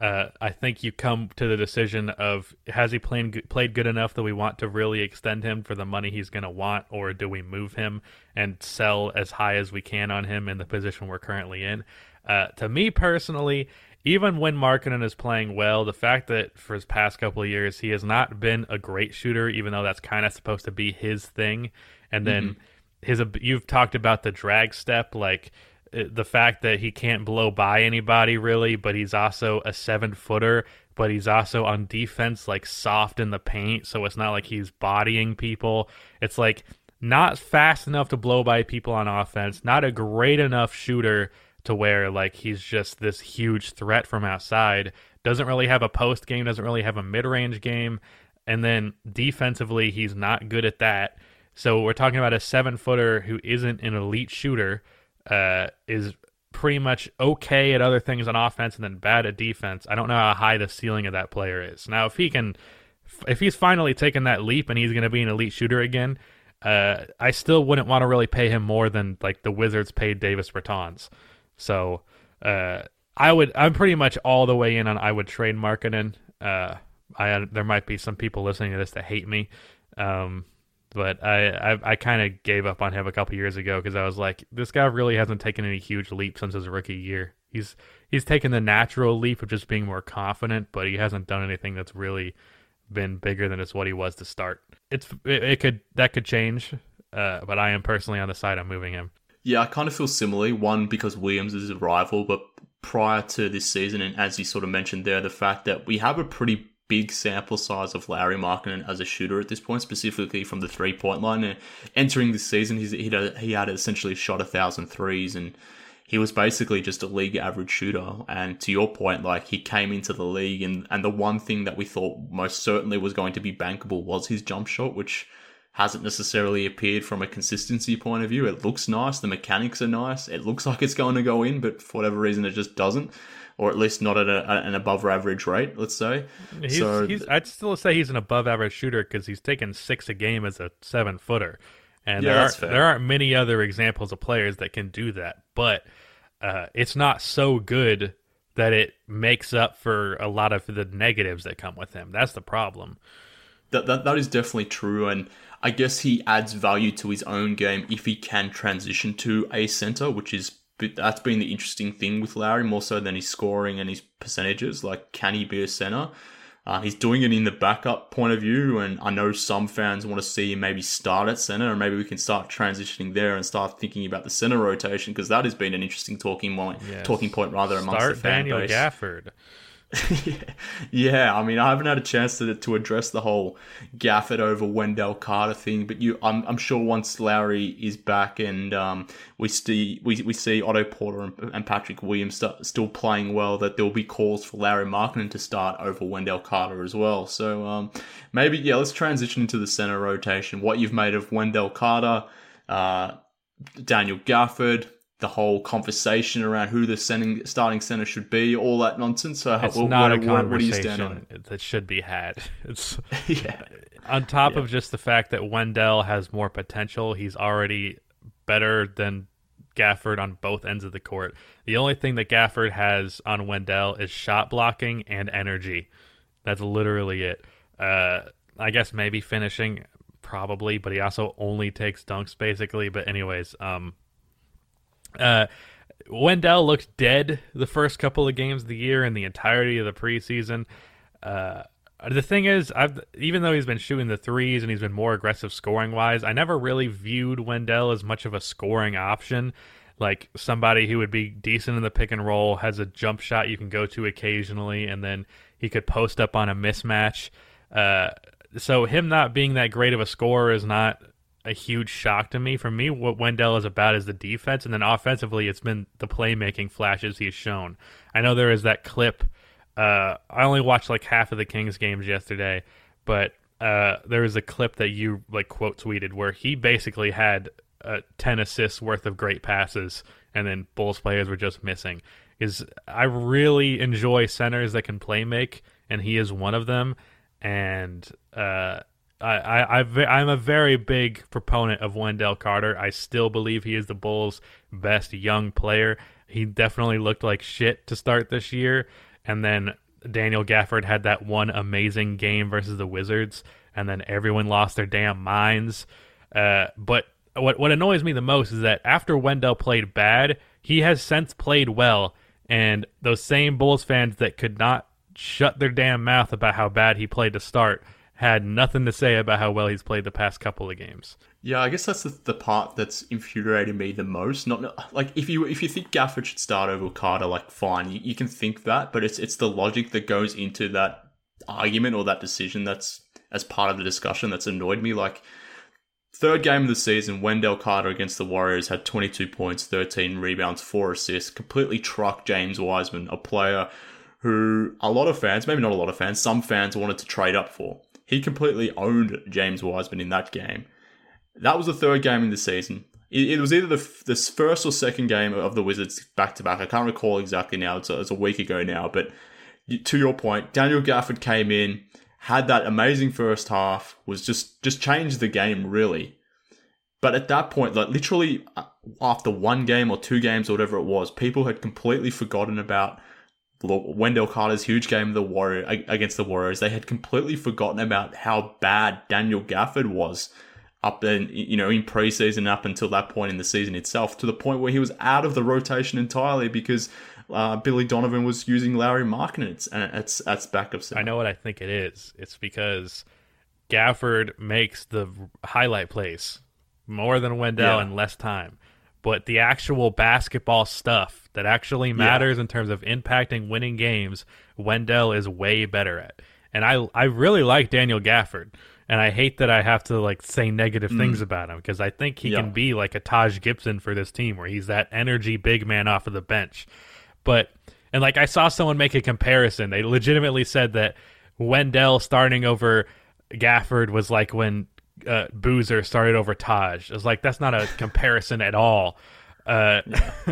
Uh, I think you come to the decision of, has he played played good enough that we want to really extend him for the money he's going to want, or do we move him and sell as high as we can on him in the position we're currently in? Uh, to me personally, even when Markkanen is playing well, the fact that for his past couple of years he has not been a great shooter, even though that's kind of supposed to be his thing, and then mm-hmm. his you've talked about the drag step, like the fact that he can't blow by anybody really, but he's also a seven footer, but he's also on defense like soft in the paint, so it's not like he's bodying people. It's like not fast enough to blow by people on offense, not a great enough shooter to where like he's just this huge threat from outside, doesn't really have a post game, doesn't really have a mid-range game, and then defensively he's not good at that. So we're talking about a seven footer who isn't an elite shooter, uh, is pretty much okay at other things on offense and then bad at defense. I don't know how high the ceiling of that player is. Now, if he can, if he's finally taken that leap and he's going to be an elite shooter again, uh, I still wouldn't want to really pay him more than like the Wizards paid Davis Bertans. So uh, I would, I'm pretty much all the way in on I would trade Markkanen. Uh, I there might be some people listening to this that hate me. Um, But I I, I kind of gave up on him a couple years ago because I was like, this guy really hasn't taken any huge leap since his rookie year. He's he's taken the natural leap of just being more confident, but he hasn't done anything that's really been bigger than it's what he was to start. It's it, it could that could change, uh, but I am personally on the side of moving him. Yeah, I kind of feel similarly. One, because Williams is a rival, but prior to this season, and as you sort of mentioned there, the fact that we have a pretty big sample size of Lauri Markkanen as a shooter at this point, specifically from the three-point line. And entering this season, he's, he had, he had essentially shot a thousand threes, and he was basically just a league average shooter. And to your point, like he came into the league, and, and the one thing that we thought most certainly was going to be bankable was his jump shot, which hasn't necessarily appeared from a consistency point of view. It looks nice, the mechanics are nice, it looks like it's going to go in, but for whatever reason it just doesn't. Or at least not at a, an above average rate, let's say. He's, so he's, I'd still say he's an above average shooter because he's taken six a game as a seven footer, and yeah, there that's are fair. there aren't many other examples of players that can do that. But uh, it's not so good that it makes up for a lot of the negatives that come with him. That's the problem. That that that is definitely true, and I guess he adds value to his own game if he can transition to a center, which is. But that's been the interesting thing with Lauri, more so than his scoring and his percentages. Like, can he be a center? Uh, he's doing it in the backup point of view, and I know some fans want to see him maybe start at center, and maybe we can start transitioning there and start thinking about the center rotation, because that has been an interesting talking point, yes. talking point rather amongst start the fan Daniel base. Gafford. yeah. yeah, I mean, I haven't had a chance to to address the whole Gafford over Wendell Carter thing, but you, I'm I'm sure once Lauri is back and um we see we we see Otto Porter and, and Patrick Williams st- still playing well, that there will be calls for Lauri Markkanen to start over Wendell Carter as well. So um maybe yeah, let's transition into the center rotation. What you've made of Wendell Carter, uh, Daniel Gafford. The whole conversation around who the sending, starting center should be, all that nonsense. So, it's what, not what, a conversation what do you stand on it? that should be had. It's yeah. On top yeah. of just the fact that Wendell has more potential, he's already better than Gafford on both ends of the court. The only thing that Gafford has on Wendell is shot blocking and energy. That's literally it. Uh, I guess maybe finishing, probably, but he also only takes dunks basically. But anyways, um. Uh, Wendell looked dead the first couple of games of the year and the entirety of the preseason. Uh, the thing is, I've even though he's been shooting the threes and he's been more aggressive scoring wise, I never really viewed Wendell as much of a scoring option, like somebody who would be decent in the pick and roll, has a jump shot you can go to occasionally, and then he could post up on a mismatch. Uh, so him not being that great of a scorer is not a huge shock to me. For me, what Wendell is about is the defense, and then offensively it's been the playmaking flashes he's shown. I know there is that clip. Uh, I only watched like half of the Kings games yesterday, but uh, there was a clip that you like quote tweeted where he basically had uh, ten assists worth of great passes, and then Bulls players were just missing. Is I really enjoy centers that can play make, and he is one of them. And uh, I, I, I'm a very big proponent of Wendell Carter. I still believe he is the Bulls' best young player. He definitely looked like shit to start this year, and then Daniel Gafford had that one amazing game versus the Wizards, and then everyone lost their damn minds. Uh, but what what annoys me the most is that after Wendell played bad, he has since played well, and those same Bulls fans that could not shut their damn mouth about how bad he played to start had nothing to say about how well he's played the past couple of games. Yeah, I guess that's the, the part that's infuriating me the most. Not like if you if you think Gafford should start over Carter, like fine, you, you can think that, but it's it's the logic that goes into that argument or that decision that's as part of the discussion that's annoyed me. Like third game of the season, Wendell Carter against the Warriors had twenty-two points, thirteen rebounds, four assists, completely trucked James Wiseman, a player who a lot of fans, maybe not a lot of fans, some fans wanted to trade up for. He completely owned James Wiseman in that game. That was the third game in the season. It, it was either the, the first or second game of the Wizards back-to-back. I can't recall exactly now. It's a, it's a week ago now. But to your point, Daniel Gafford came in, had that amazing first half, was just, just changed the game, really. But at that point, like literally after one game or two games or whatever it was, people had completely forgotten about Wendell Carter's huge game of the Warrior against the Warriors. They had completely forgotten about how bad Daniel Gafford was up in, you know, in preseason up until that point in the season itself, to the point where he was out of the rotation entirely because uh, Billy Donovan was using Lauri Markkanen and it's that's backup center. I know what I think it is. It's because Gafford makes the highlight plays more than Wendell Yeah. in less time. But the actual basketball stuff that actually matters yeah. in terms of impacting winning games, Wendell is way better at. And I I really like Daniel Gafford. And I hate that I have to like say negative mm. things about him because I think he yeah. can be like a Taj Gibson for this team where he's that energy big man off of the bench. But, and like I saw someone make a comparison. They legitimately said that Wendell starting over Gafford was like when Uh, Boozer started over Taj. I was like, that's not a comparison at all. Uh,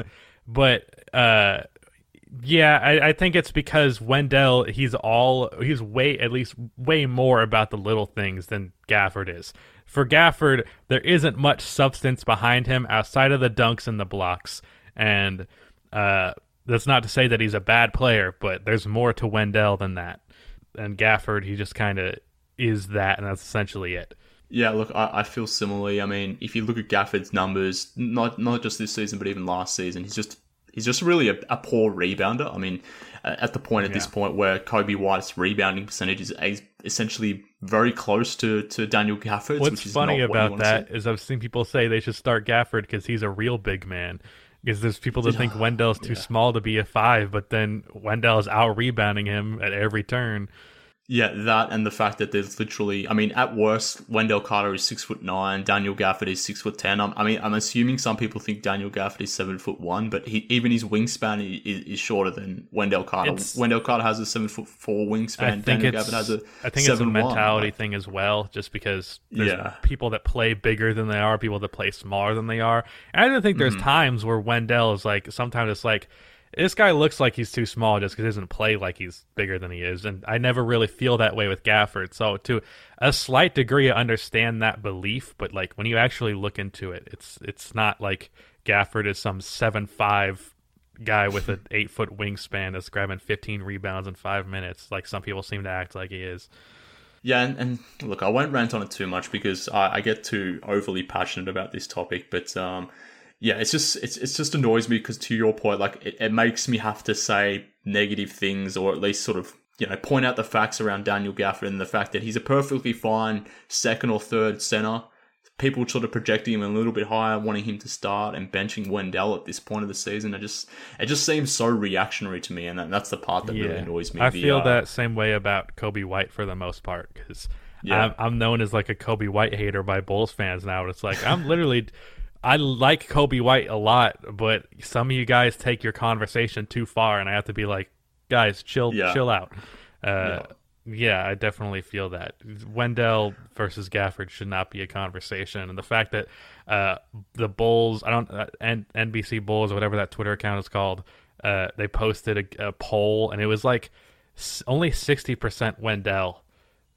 but uh, yeah, I, I think it's because Wendell, he's all he's way at least way more about the little things than Gafford is. For Gafford, there isn't much substance behind him outside of the dunks and the blocks. And uh, that's not to say that he's a bad player, but there's more to Wendell than that. And Gafford, he just kind of is that, and that's essentially it. Yeah, look, I, I feel similarly. I mean, if you look at Gafford's numbers, not not just this season, but even last season, he's just he's just really a, a poor rebounder. I mean, at the point at yeah. this point where Kobe White's rebounding percentage is essentially very close to, to Daniel Gafford's. What's which is funny not about what that is I've seen people say they should start Gafford because he's a real big man. Because there's people that think Wendell's too yeah. small to be a five, but then Wendell is out rebounding him at every turn. Yeah, that and the fact that there's literally, I mean, at worst, Wendell Carter is six foot nine, Daniel Gafford is six foot ten. I'm, I mean, I'm assuming some people think Daniel Gafford is seven foot one, but he, even his wingspan is, is shorter than Wendell Carter. It's, Wendell Carter has a seven foot four wingspan. Daniel Gafford has a I think seven it's a mentality one. thing as well, just because there's yeah. people that play bigger than they are, people that play smaller than they are. And I don't think there's mm-hmm. times where Wendell is like, sometimes it's like, this guy looks like he's too small just because he doesn't play like he's bigger than he is. And I never really feel that way with Gafford. So to a slight degree, I understand that belief. But like when you actually look into it, it's it's not like Gafford is some seven five guy with an eight foot wingspan that's grabbing fifteen rebounds in five minutes, like some people seem to act like he is. Yeah, and, and look, I won't rant on it too much because I, I get too overly passionate about this topic. But um, yeah, it's just it's it's just annoys me because, to your point, like it, it makes me have to say negative things, or at least sort of, you know, point out the facts around Daniel Gafford and the fact that he's a perfectly fine second or third center. People sort of projecting him a little bit higher, wanting him to start, and benching Wendell at this point of the season. It just it just seems so reactionary to me, and that, that's the part that yeah. really annoys me. I the, feel uh, that same way about Kobe White for the most part, because yeah. I'm, I'm known as like a Kobe White hater by Bulls fans now. It's like I'm literally. I like Kobe White a lot, but some of you guys take your conversation too far, and I have to be like, guys, chill, yeah. chill out. Uh, yeah. yeah, I definitely feel that. Wendell versus Gafford should not be a conversation, and the fact that uh, the Bulls, I don't, uh, N- NBC Bulls or whatever that Twitter account is called, uh, they posted a, a poll, and it was like s- only sixty percent Wendell.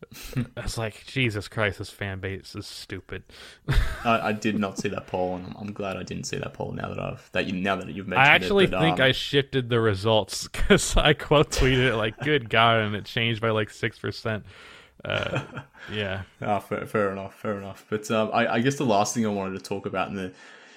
I was like, Jesus Christ, this fan base is stupid. I, I did not see that poll, and I'm, I'm glad I didn't see that poll. Now that I've that you now that you've mentioned I actually it, but, think um, I shifted the results because I quote tweeted it like, "Good God," and it changed by like six percent. Uh, yeah. Ah, fair, fair enough, fair enough. But um, I, I guess the last thing I wanted to talk about, in the,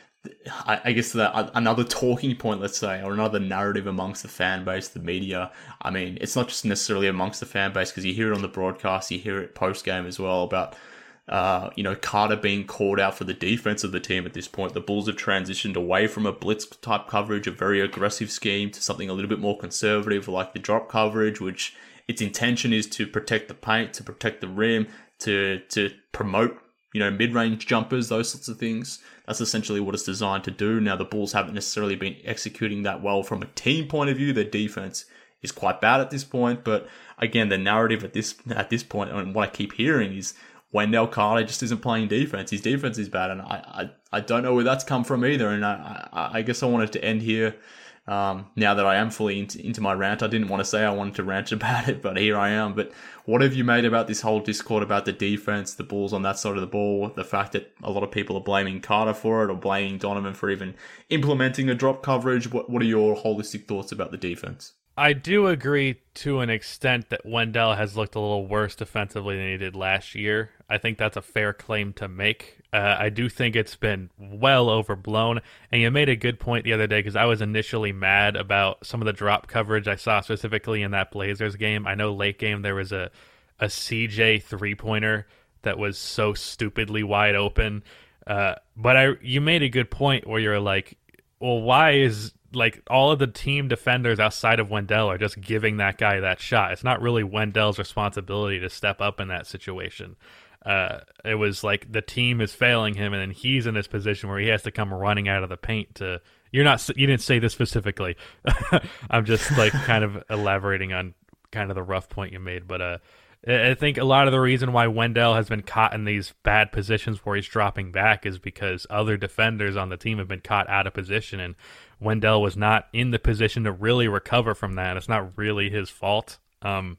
I, I guess that another talking point, let's say, or another narrative amongst the fan base, the media. I mean, it's not just necessarily amongst the fan base, because you hear it on the broadcast, you hear it post game as well about, uh, you know, Carter being called out for the defense of the team at this point. The Bulls have transitioned away from a blitz type coverage, a very aggressive scheme, to something a little bit more conservative, like the drop coverage, which its intention is to protect the paint, to protect the rim, to to promote, you know, mid-range jumpers, those sorts of things. That's essentially what it's designed to do. Now, the Bulls haven't necessarily been executing that well from a team point of view. Their defense is quite bad at this point. But again, the narrative at this at this point, and what I keep hearing is Wendell Carter just isn't playing defense. His defense is bad, and I I, I don't know where that's come from either. And I, I, I guess I wanted to end here. Um, now that I am fully into, into my rant, I didn't want to say I wanted to rant about it, but here I am. But what have you made about this whole discord about the defense, the Bulls on that side of the ball, the fact that a lot of people are blaming Carter for it, or blaming Donovan for even implementing a drop coverage? What What are your holistic thoughts about the defense? I do agree to an extent that Wendell has looked a little worse defensively than he did last year. I think that's a fair claim to make. Uh, I do think it's been well overblown. And you made a good point the other day, because I was initially mad about some of the drop coverage I saw specifically in that Blazers game. I know late game there was a, a C J three-pointer that was so stupidly wide open. Uh, but I, you made a good point where you're like, well, why is like all of the team defenders outside of Wendell are just giving that guy that shot? It's not really Wendell's responsibility to step up in that situation. Uh, it was like the team is failing him, and then he's in this position where he has to come running out of the paint to. You're not. You didn't say this specifically. I'm just like kind of elaborating on kind of the rough point you made, but uh, I think a lot of the reason why Wendell has been caught in these bad positions where he's dropping back is because other defenders on the team have been caught out of position, and Wendell was not in the position to really recover from that. It's not really his fault. Um,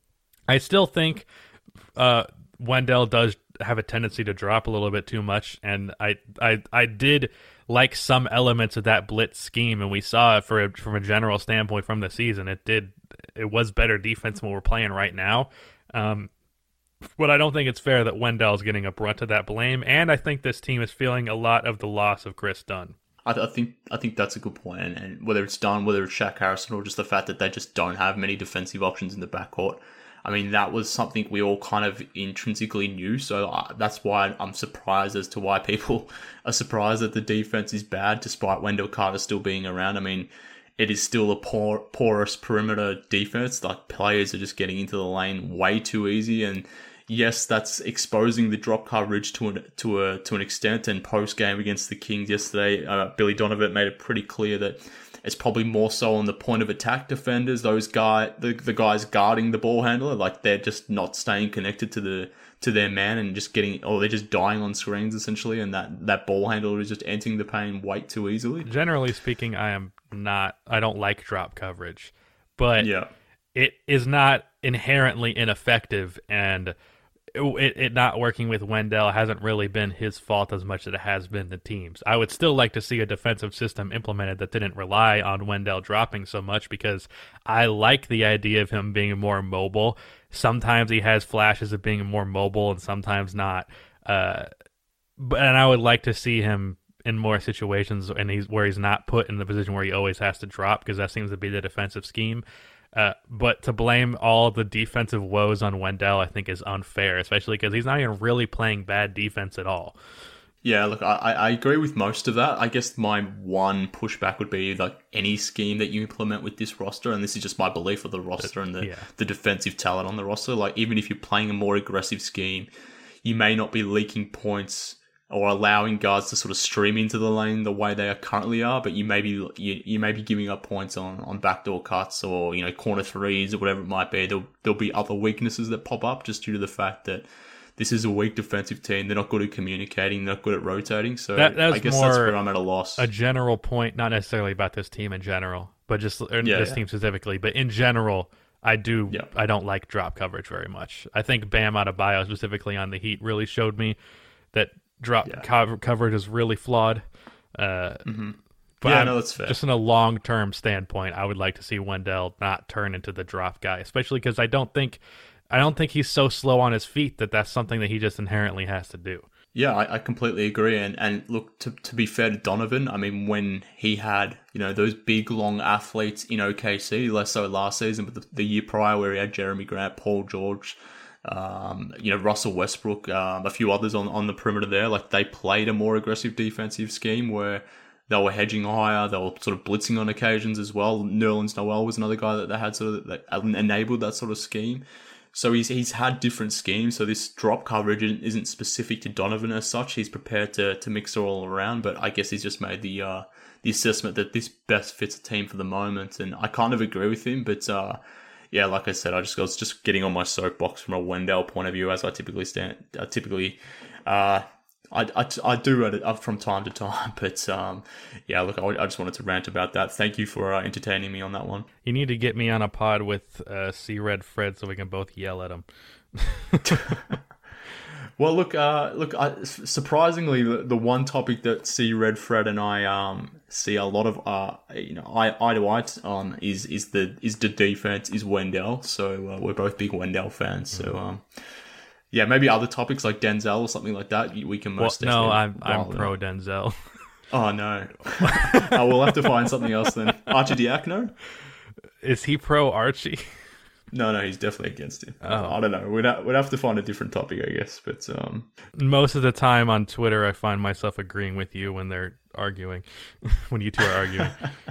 I still think uh, Wendell does have a tendency to drop a little bit too much, and I I, I did like some elements of that blitz scheme, and we saw it for a, from a general standpoint from the season. It did it was better defense than what we're playing right now. Um, but I don't think it's fair that Wendell's getting a brunt of that blame, and I think this team is feeling a lot of the loss of Chris Dunn. I, th- I think I think that's a good point, and, and whether it's Dunn, whether it's Shaq Harrison, or just the fact that they just don't have many defensive options in the backcourt. I mean, that was something we all kind of intrinsically knew, so I, that's why I'm surprised as to why people are surprised that the defense is bad, despite Wendell Carter still being around. I mean, it is still a poor, porous perimeter defense. Like, players are just getting into the lane way too easy, and yes, that's exposing the drop coverage to an to a to an extent. And post game against the Kings yesterday, uh, Billy Donovan made it pretty clear that it's probably more so on the point of attack defenders, those guy the the guys guarding the ball handler, like they're just not staying connected to the to their man and just getting, or they're just dying on screens essentially, and that that ball handler is just entering the paint way too easily. Generally speaking, I am not. I don't like drop coverage, but yeah. it is not inherently ineffective, and It, it not working with Wendell hasn't really been his fault as much as it has been the team's. I would still like to see a defensive system implemented that didn't rely on Wendell dropping so much, because I like the idea of him being more mobile. Sometimes he has flashes of being more mobile and sometimes not. Uh, but and I would like to see him in more situations and he's where he's not put in the position where he always has to drop, because that seems to be the defensive scheme. Uh, but to blame all the defensive woes on Wendell, I think, is unfair, especially because he's not even really playing bad defense at all. Yeah, look, I, I agree with most of that. I guess my one pushback would be like any scheme that you implement with this roster, and this is just my belief of the roster and the, yeah. the defensive talent on the roster. Like, even if you're playing a more aggressive scheme, you may not be leaking points or allowing guards to sort of stream into the lane the way they are currently are, but you may be you, you may be giving up points on, on backdoor cuts or, you know, corner threes or whatever it might be. There'll, there'll be other weaknesses that pop up just due to the fact that this is a weak defensive team. They're not good at communicating. They're not good at rotating. So that, I guess that's where I'm at a loss. A general point, not necessarily about this team in general, but just or yeah, this yeah. team specifically, but in general, I do. Yeah. I don't like drop coverage very much. I think Bam Adebayo, specifically on the Heat, really showed me that drop Yeah. co- coverage is really flawed. Uh, Mm-hmm. but Yeah, I'm- no, that's fair. just in a long-term standpoint, I would like to see Wendell not turn into the drop guy, especially because I don't think, I don't think he's so slow on his feet that that's something that he just inherently has to do. Yeah, I, I completely agree. And and look, to to be fair to Donovan, I mean, when he had, you know, those big, long athletes in O K C, less so last season, but the, the year prior where he had Jeremy Grant, Paul George, um, you know, Russell Westbrook, um, a few others on, on the perimeter there, like they played a more aggressive defensive scheme where they were hedging higher, they were sort of blitzing on occasions as well. Nerlens Noel was another guy that they had sort of that enabled that sort of scheme. So he's he's had different schemes. So this drop coverage isn't specific to Donovan as such. He's prepared to to mix it all around. But I guess he's just made the uh, the assessment that this best fits a team for the moment. And I kind of agree with him. But uh, yeah, like I said, I just I was just getting on my soapbox from a Wendell point of view, as I typically stand. I typically. Uh, I, I, I do read it up from time to time, but um, yeah, look, I, I just wanted to rant about that. Thank you for uh, entertaining me on that one. You need to get me on a pod with uh, C Red Fred so we can both yell at him. Well, look, uh, look. I, surprisingly, the, the one topic that C Red Fred and I um, see a lot of, uh, you know, eye, eye to eye on is is the is the defense is Wendell. So uh, we're both big Wendell fans. So. Um, Yeah, maybe other topics like Denzel or something like that. We can most well, no, I'm I'm rather. pro Denzel. Oh no, oh, we'll have to find something else then. Archidiakono? Is he pro Archie? No, no, he's definitely against him. Oh. I don't know. We'd ha- we'd have to find a different topic, I guess. But um, Most of the time on Twitter, I find myself agreeing with you when they're arguing, when you two are arguing.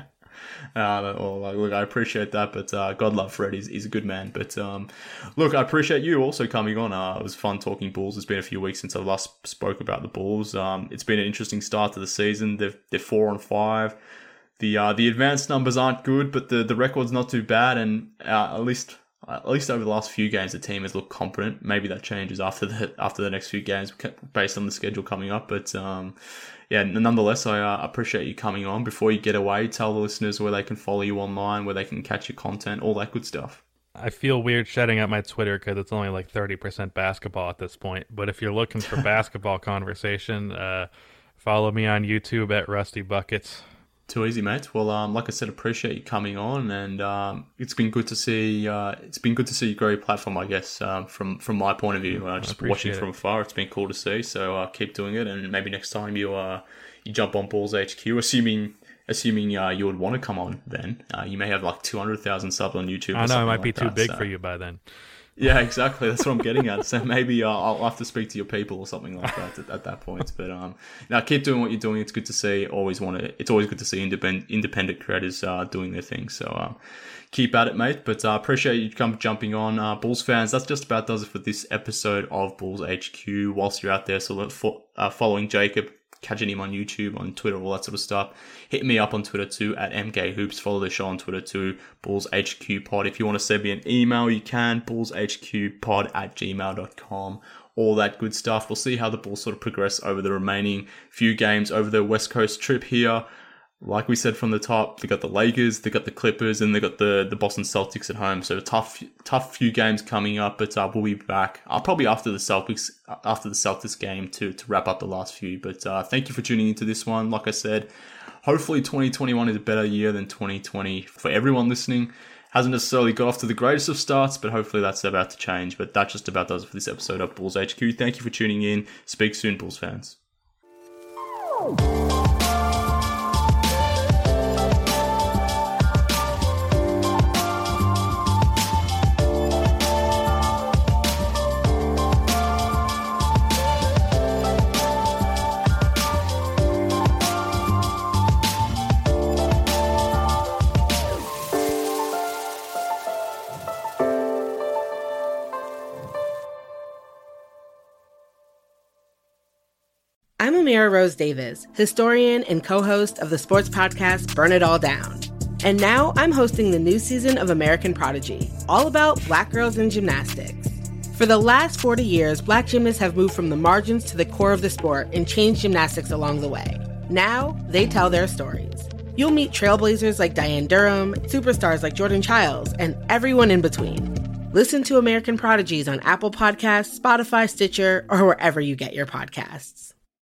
Uh, well, like, look, I appreciate that, but uh, God love Fred. He's, he's a good man. But um, look, I appreciate you also coming on. Uh, it was fun talking Bulls. It's been a few weeks since I last spoke about the Bulls. Um, it's been an interesting start to the season. They're, they're four on five. The uh, the advanced numbers aren't good, but the, the record's not too bad. And uh, at least at least over the last few games, the team has looked competent. Maybe that changes after the after the next few games based on the schedule coming up. But um, yeah, nonetheless, I uh, appreciate you coming on. Before you get away, tell the listeners where they can follow you online, where they can catch your content, all that good stuff. I feel weird shutting up my Twitter because it's only like thirty percent basketball at this point. But if you're looking for basketball conversation, uh, follow me on YouTube at Rusty Buckets. Too easy, mate. Well, um, like I said, appreciate you coming on, and um, it's been good to see. Uh, it's been good to see you grow your platform, I guess. Um, from from my point of view, uh, just watching it. from afar, it's been cool to see. So uh, keep doing it, and maybe next time you uh you jump on Bulls H Q, assuming assuming uh, you would want to come on, then uh, you may have like two hundred thousand subs on YouTube. I or know it might like be too that, big so. for you by then. Yeah, exactly. That's what I'm getting at. So maybe uh, I'll have to speak to your people or something like that at, at that point. But um, now keep doing what you're doing. It's good to see. Always want to. It's always good to see independent independent creators uh, doing their thing. So um, keep at it, mate. But uh, appreciate you come jumping on, uh, Bulls fans. That's just about does it for this episode of Bulls H Q. Whilst you're out there, so look for, uh, following Jacob. Catching him on YouTube, on Twitter, all that sort of stuff. Hit me up on Twitter too, at M K Hoops. Follow the show on Twitter too, Bulls H Q Pod. If you want to send me an email, you can, bullshqpod at gmail dot com. All that good stuff. We'll see how the Bulls sort of progress over the remaining few games over the West Coast trip here. Like we said from the top, they got the Lakers, they got the Clippers, and they got the, the Boston Celtics at home. So tough, tough few games coming up, but uh, we'll be back uh, probably after the Celtics, after the Celtics game to to wrap up the last few. But uh, thank you for tuning into this one. Like I said, hopefully twenty twenty-one is a better year than twenty twenty for everyone listening. Hasn't necessarily got off to the greatest of starts, but hopefully that's about to change. But that just about does it for this episode of Bulls H Q. Thank you for tuning in. Speak soon, Bulls fans. I'm Amira Rose Davis, historian and co-host of the sports podcast Burn It All Down. And now I'm hosting the new season of American Prodigy, all about Black girls in gymnastics. For the last forty years, Black gymnasts have moved from the margins to the core of the sport and changed gymnastics along the way. Now, they tell their stories. You'll meet trailblazers like Diane Durham, superstars like Jordan Childs, and everyone in between. Listen to American Prodigies on Apple Podcasts, Spotify, Stitcher, or wherever you get your podcasts.